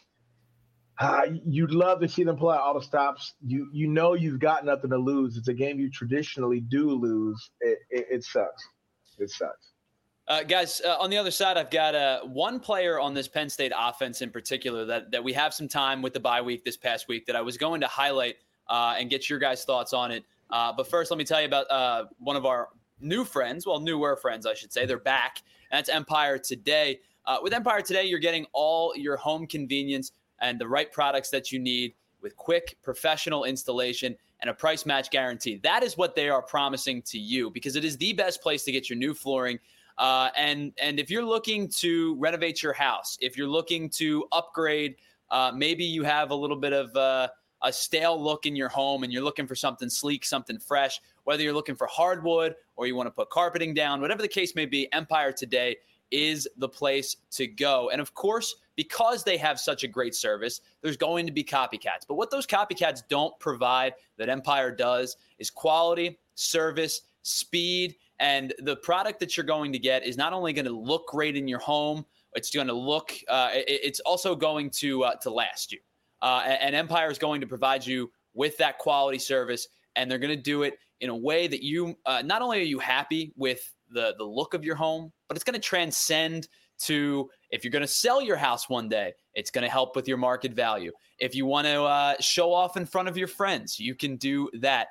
you'd love to see them pull out all the stops. You've got nothing to lose. It's a game you traditionally do lose. It sucks. It sucks. Guys, on the other side, I've got one player on this Penn State offense in particular that we have some time with the bye week this past week that I was going to highlight and get your guys' thoughts on it. But first, let me tell you about one of our newer friends, I should say. They're back, and that's Empire Today. With Empire Today, you're getting all your home convenience and the right products that you need with quick, professional installation and a price match guarantee. That is what they are promising to you, because it is the best place to get your new flooring. And if you're looking to renovate your house, if you're looking to upgrade, maybe you have a little bit of a stale look in your home and you're looking for something sleek, something fresh, whether you're looking for hardwood or you want to put carpeting down, whatever the case may be, Empire Today is the place to go. And of course, because they have such a great service, there's going to be copycats. But what those copycats don't provide that Empire does is quality, service, speed, and the product that you're going to get is not only going to look great in your home, it's going to look, it's also going to last you. And Empire is going to provide you with that quality service, and they're going to do it in a way that you, not only are you happy with the look of your home, but it's going to transcend to, if you're going to sell your house one day, it's going to help with your market value. If you want to show off in front of your friends, you can do that.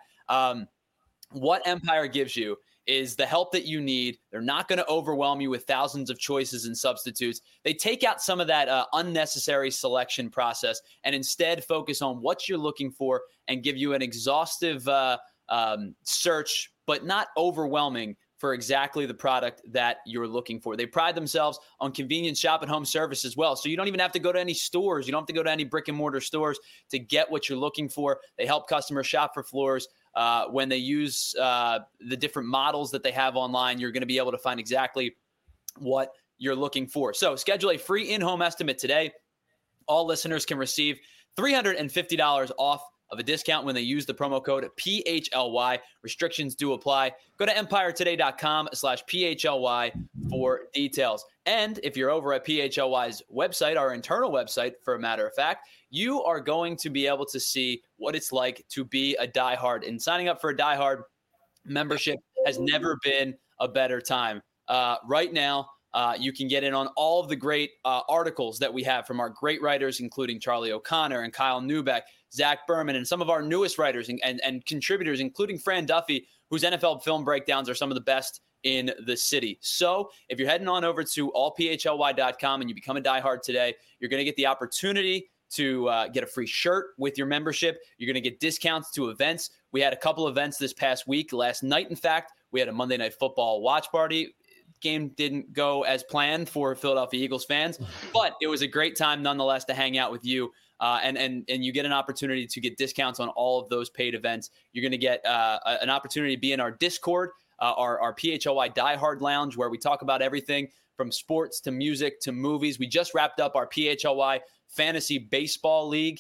What Empire gives you is the help that you need. They're not going to overwhelm you with thousands of choices and substitutes. They take out some of that unnecessary selection process and instead focus on what you're looking for and give you an exhaustive search, but not overwhelming, for exactly the product that you're looking for. They pride themselves on convenient shop at home service as well. So you don't even have to go to any stores. You don't have to go to any brick and mortar stores to get what you're looking for. They help customers shop for floors. When they use the different models that they have online, you're going to be able to find exactly what you're looking for. So schedule a free in-home estimate today. All listeners can receive $350 off of a discount when they use the promo code PHLY. Restrictions do apply. Go to EmpireToday.com/PHLY for details. And if you're over at PHLY's website, our internal website, for a matter of fact, you are going to be able to see what it's like to be a diehard. And signing up for a diehard membership has never been a better time. Right now, you can get in on all of the great articles that we have from our great writers, including Charlie O'Connor and Kyle Neubeck, Zach Berman, and some of our newest writers and contributors, including Fran Duffy, whose NFL film breakdowns are some of the best in the city. So if you're heading on over to allphly.com and you become a diehard today, you're going to get the opportunity to get a free shirt with your membership. You're going to get discounts to events. We had a couple events this past week. Last night, in fact, we had a Monday Night Football watch party. Game didn't go as planned for Philadelphia Eagles fans, but it was a great time nonetheless to hang out with you. And you get an opportunity to get discounts on all of those paid events. You're going to get an opportunity to be in our Discord, our PHLY Diehard Lounge, where we talk about everything from sports to music to movies. We just wrapped up our PHLY Fantasy Baseball League.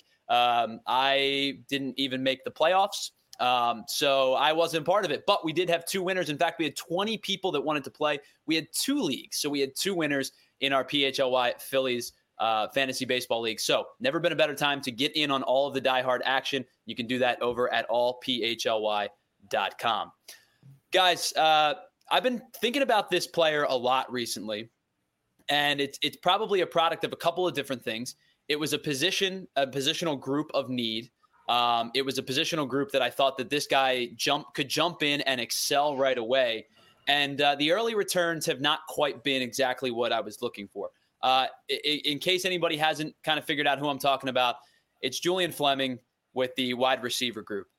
I didn't even make the playoffs, so I wasn't part of it. But we did have 2 winners. In fact, we had 20 people that wanted to play. We had 2 leagues, so we had 2 winners in our PHLY Phillies fantasy baseball leagues. So never been a better time to get in on all of the diehard action. You can do that over at allphly.com. Guys, I've been thinking about this player a lot recently, and it's probably a product of a couple of different things. It was a positional group of need. It was a positional group that I thought that this guy could jump in and excel right away. And the early returns have not quite been exactly what I was looking for. In case anybody hasn't kind of figured out who I'm talking about, it's Julian Fleming with the wide receiver group.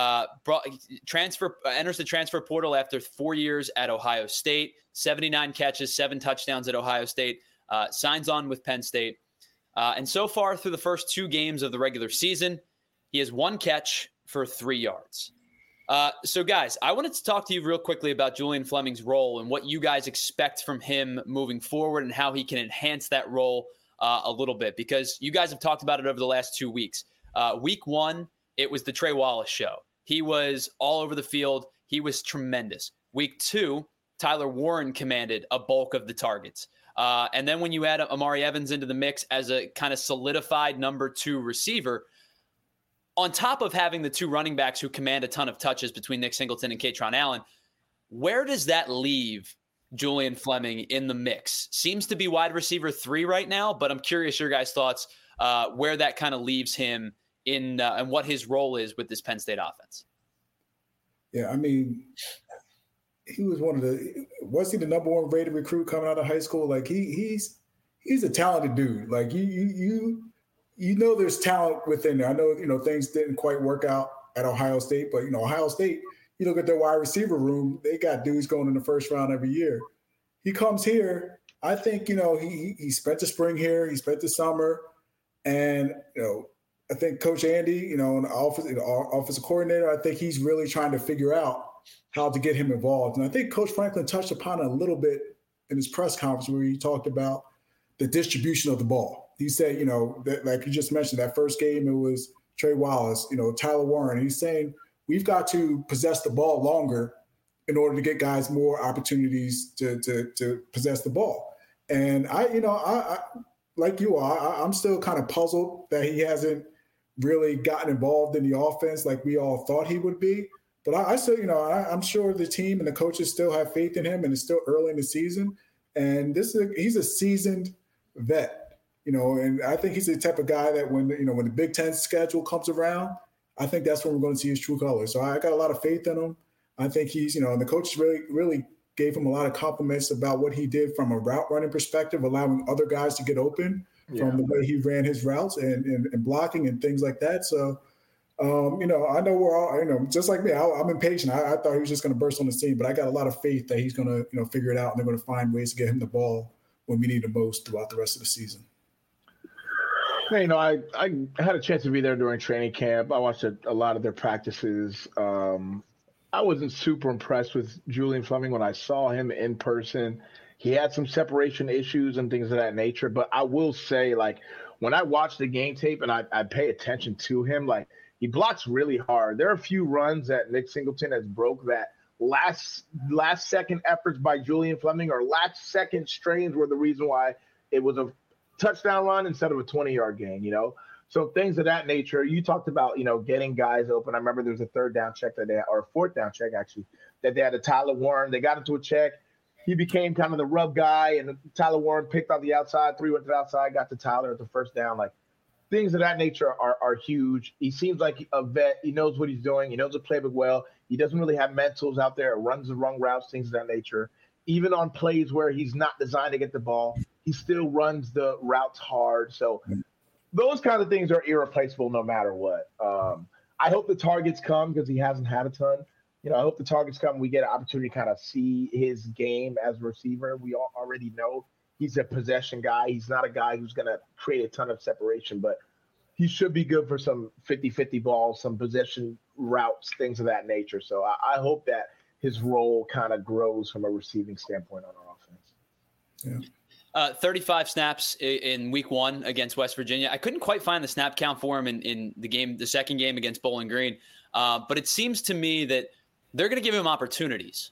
Enters the transfer portal after 4 years at Ohio State, 79 catches, 7 touchdowns at Ohio State, signs on with Penn State. And so far through the first 2 games of the regular season, he has 1 catch for 3 yards. So guys, I wanted to talk to you real quickly about Julian Fleming's role and what you guys expect from him moving forward and how he can enhance that role a little bit, because you guys have talked about it over the last 2 weeks. Week 1, it was the Trey Wallace show. He was all over the field. He was tremendous. Week 2, Tyler Warren commanded a bulk of the targets. And then when you add Amari Evans into the mix as a kind of solidified number 2 receiver, on top of having the 2 running backs who command a ton of touches between Nick Singleton and Kaytron Allen, where does that leave Julian Fleming in the mix? Seems to be wide receiver 3 right now, but I'm curious your guys' thoughts where that kind of leaves him in and what his role is with this Penn State offense. Yeah, I mean, he was was he the number 1 rated recruit coming out of high school? Like he's a talented dude. Like you know there's talent within there. I know, things didn't quite work out at Ohio State, but Ohio State, you look at their wide receiver room, they got dudes going in the first round every year. He comes here, I think, he spent the spring here, he spent the summer, and I think Coach Andy, an offensive coordinator, I think he's really trying to figure out how to get him involved. And I think Coach Franklin touched upon it a little bit in his press conference where he talked about the distribution of the ball. He said, that, like you just mentioned, that first game, it was Trey Wallace, Tyler Warren. He's saying we've got to possess the ball longer in order to get guys more opportunities to possess the ball. And I like you are, I'm still kind of puzzled that he hasn't really gotten involved in the offense like we all thought he would be. But I still, I'm sure the team and the coaches still have faith in him, and it's still early in the season. And he's a seasoned vet, and I think he's the type of guy that when the Big Ten schedule comes around, I think that's when we're going to see his true colors. So I got a lot of faith in him. I think he's, and the coaches really gave him a lot of compliments about what he did from a route running perspective, allowing other guys to get open from the way he ran his routes and blocking and things like that. So, I know we're all, just like me, I'm impatient. I thought he was just going to burst on the scene, but I got a lot of faith that he's going to, figure it out, and they're going to find ways to get him the ball when we need the most throughout the rest of the season. I had a chance to be there during training camp. I watched a lot of their practices. I wasn't super impressed with Julian Fleming when I saw him in person. He had some separation issues and things of that nature. But I will say, when I watch the game tape and I pay attention to him, he blocks really hard. There are a few runs that Nick Singleton has broke that last second efforts by Julian Fleming or last second strains were the reason why it was a touchdown run instead of a 20-yard gain, So things of that nature. You talked about, getting guys open. I remember there was a 3rd down check or a 4th down check, actually, that they had to Tyler Warren. They got into a check. He became kind of the rub guy, and Tyler Warren picked out the outside, 3 went to the outside, got to Tyler at the first down. Things of that nature are huge. He seems like a vet. He knows what he's doing. He knows the playbook well. He doesn't really have mentals out there, runs the wrong routes, things of that nature. Even on plays where he's not designed to get the ball, he still runs the routes hard. So those kind of things are irreplaceable no matter what. I hope the targets come because he hasn't had a ton. I hope the targets come. We get an opportunity to kind of see his game as a receiver. We all already know he's a possession guy. He's not a guy who's going to create a ton of separation, but he should be good for some 50-50 balls, some possession routes, things of that nature. So I hope that his role kind of grows from a receiving standpoint on our offense. Yeah. 35 snaps in week 1 against West Virginia. I couldn't quite find the snap count for him in the second game against Bowling Green. But it seems to me that they're going to give him opportunities.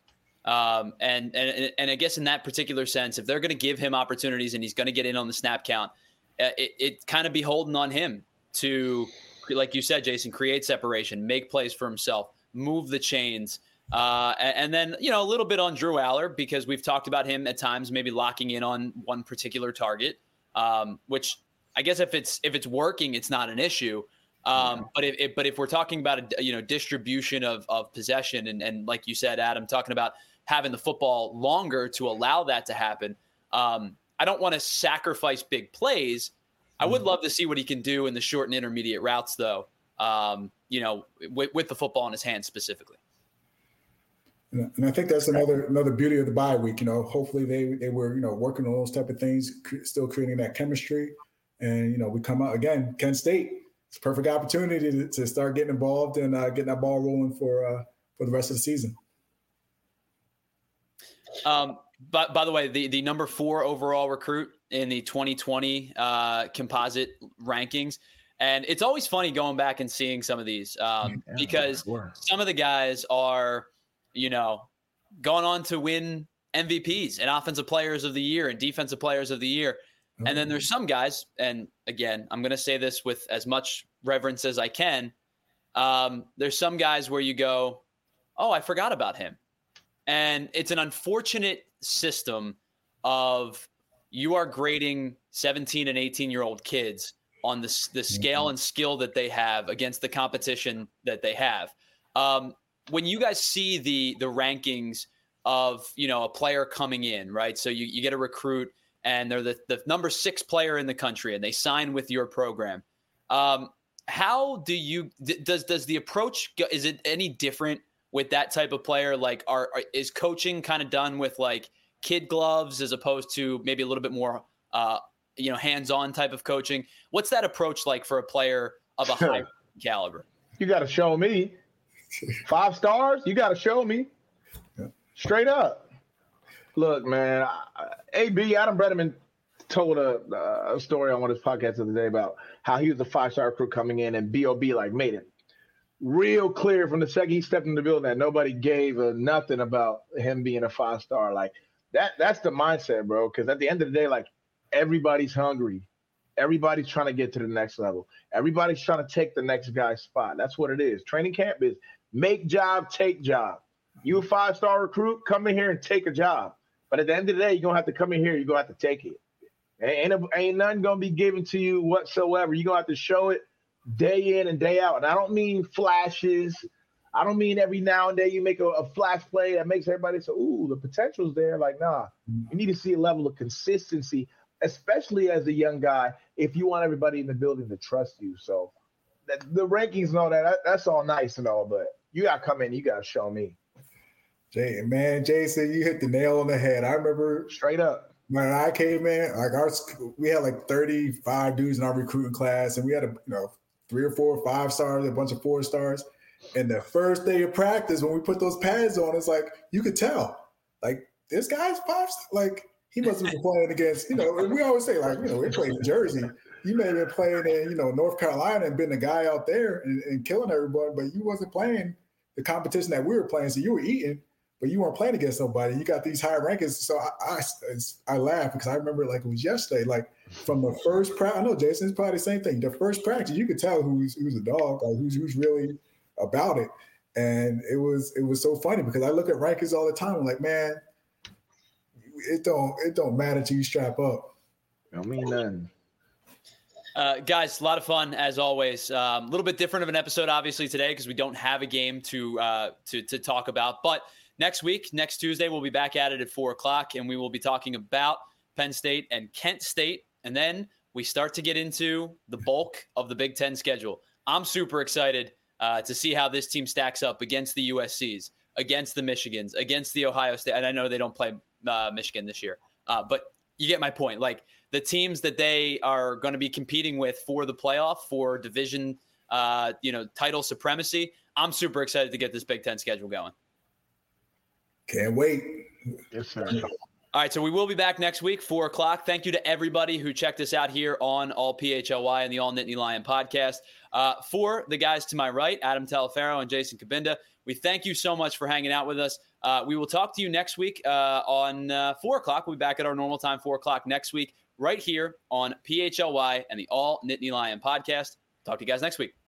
And I guess in that particular sense, if they're going to give him opportunities and he's going to get in on the snap count, it kind of beholden on him to, like you said, Jason, create separation, make plays for himself, move the chains. And then, a little bit on Drew Aller, because we've talked about him at times maybe locking in on one particular target, which I guess if it's working, it's not an issue. But if we're talking about distribution of possession and like you said, Adam, talking about having the football longer to allow that to happen, I don't want to sacrifice big plays. I would love to see what he can do in the short and intermediate routes, though. With the football in his hands specifically. And I think that's another beauty of the bye week. Hopefully they were working on those type of things, still creating that chemistry, and we come out again. Kent State, it's a perfect opportunity to start getting involved and getting that ball rolling for the rest of the season. But by the way, the number 4 overall recruit in the 2020 composite rankings. And it's always funny going back and seeing some of these because some of the guys are, going on to win MVPs and offensive players of the year and defensive players of the year. And then there's some guys, and again, I'm going to say this with as much reverence as I can. There's some guys where you go, oh, I forgot about him. And it's an unfortunate system of you are grading 17 and 18-year-old kids on the scale and skill that they have against the competition that they have. When you guys see the rankings of, a player coming in, right? So you get a recruit and they're the number 6 player in the country and they sign with your program. How do does the approach, is it any different with that type of player? Like is coaching kind of done with like kid gloves as opposed to maybe a little bit more, hands-on type of coaching? What's that approach like for a player of a high caliber? You got to show me 5 stars. You got to show me straight up. Look, man, Adam Bredeman told a story on one of his podcasts the other day about how he was a 5-star recruit coming in and B.O.B. made it real clear from the second he stepped in the building that nobody gave nothing about him being a 5-star. Like that's the mindset, bro. Because at the end of the day, everybody's hungry. Everybody's trying to get to the next level. Everybody's trying to take the next guy's spot. That's what it is. Training camp is make job, take job. You a 5-star recruit, come in here and take a job. But at the end of the day, you're going to have to come in here. You're going to have to take it. Ain't nothing going to be given to you whatsoever. You're going to have to show it day in and day out. And I don't mean flashes. I don't mean every now and then you make a flash play that makes everybody say, ooh, the potential's there. Nah, you need to see a level of consistency, especially as a young guy, if you want everybody in the building to trust you. So the rankings and all that's all nice and all, but you got to come in, you got to show me. Jason, you hit the nail on the head. I remember straight up when I came in, we had 35 dudes in our recruiting class, and we had 3 or 4 5-stars, a bunch of 4-stars. And the first day of practice, when we put those pads on, it's you could tell, this guy's 5-star. He must have been playing against, we always say, we're playing in Jersey. You may have been playing in, North Carolina and been the guy out there and killing everybody, but you wasn't playing the competition that we were playing. So you were eating, but you weren't playing against nobody. You got these high rankings. So I laugh because I remember it was yesterday, from the first practice. I know Jason's probably the same thing. The first practice, you could tell who's a dog, who's really about it. And it was so funny because I look at rankings all the time. I'm like, man, it don't matter till you strap up. I don't mean nothing. Guys, a lot of fun as always. A little bit different of an episode, obviously, today because we don't have a game to talk about. But next Tuesday, we'll be back at it at 4:00, and we will be talking about Penn State and Kent State. And then we start to get into the bulk of the Big Ten schedule. I'm super excited to see how this team stacks up against the USCs, against the Michigans, against the Ohio State. And I know they don't play Michigan this year, but you get my point. The teams that they are going to be competing with for the playoff, for division, title supremacy. I'm super excited to get this Big Ten schedule going. Can't wait. Yes, sir. All right, so we will be back next week, 4:00. Thank you to everybody who checked us out here on All PHLY and the All Nittany Lion podcast. For the guys to my right, Adam Talaferro and Jason Kabinda, we thank you so much for hanging out with us. We will talk to you next week on 4:00. We'll be back at our normal time, 4:00 next week. right here on PHLY and the All Nittany Lion podcast. Talk to you guys next week.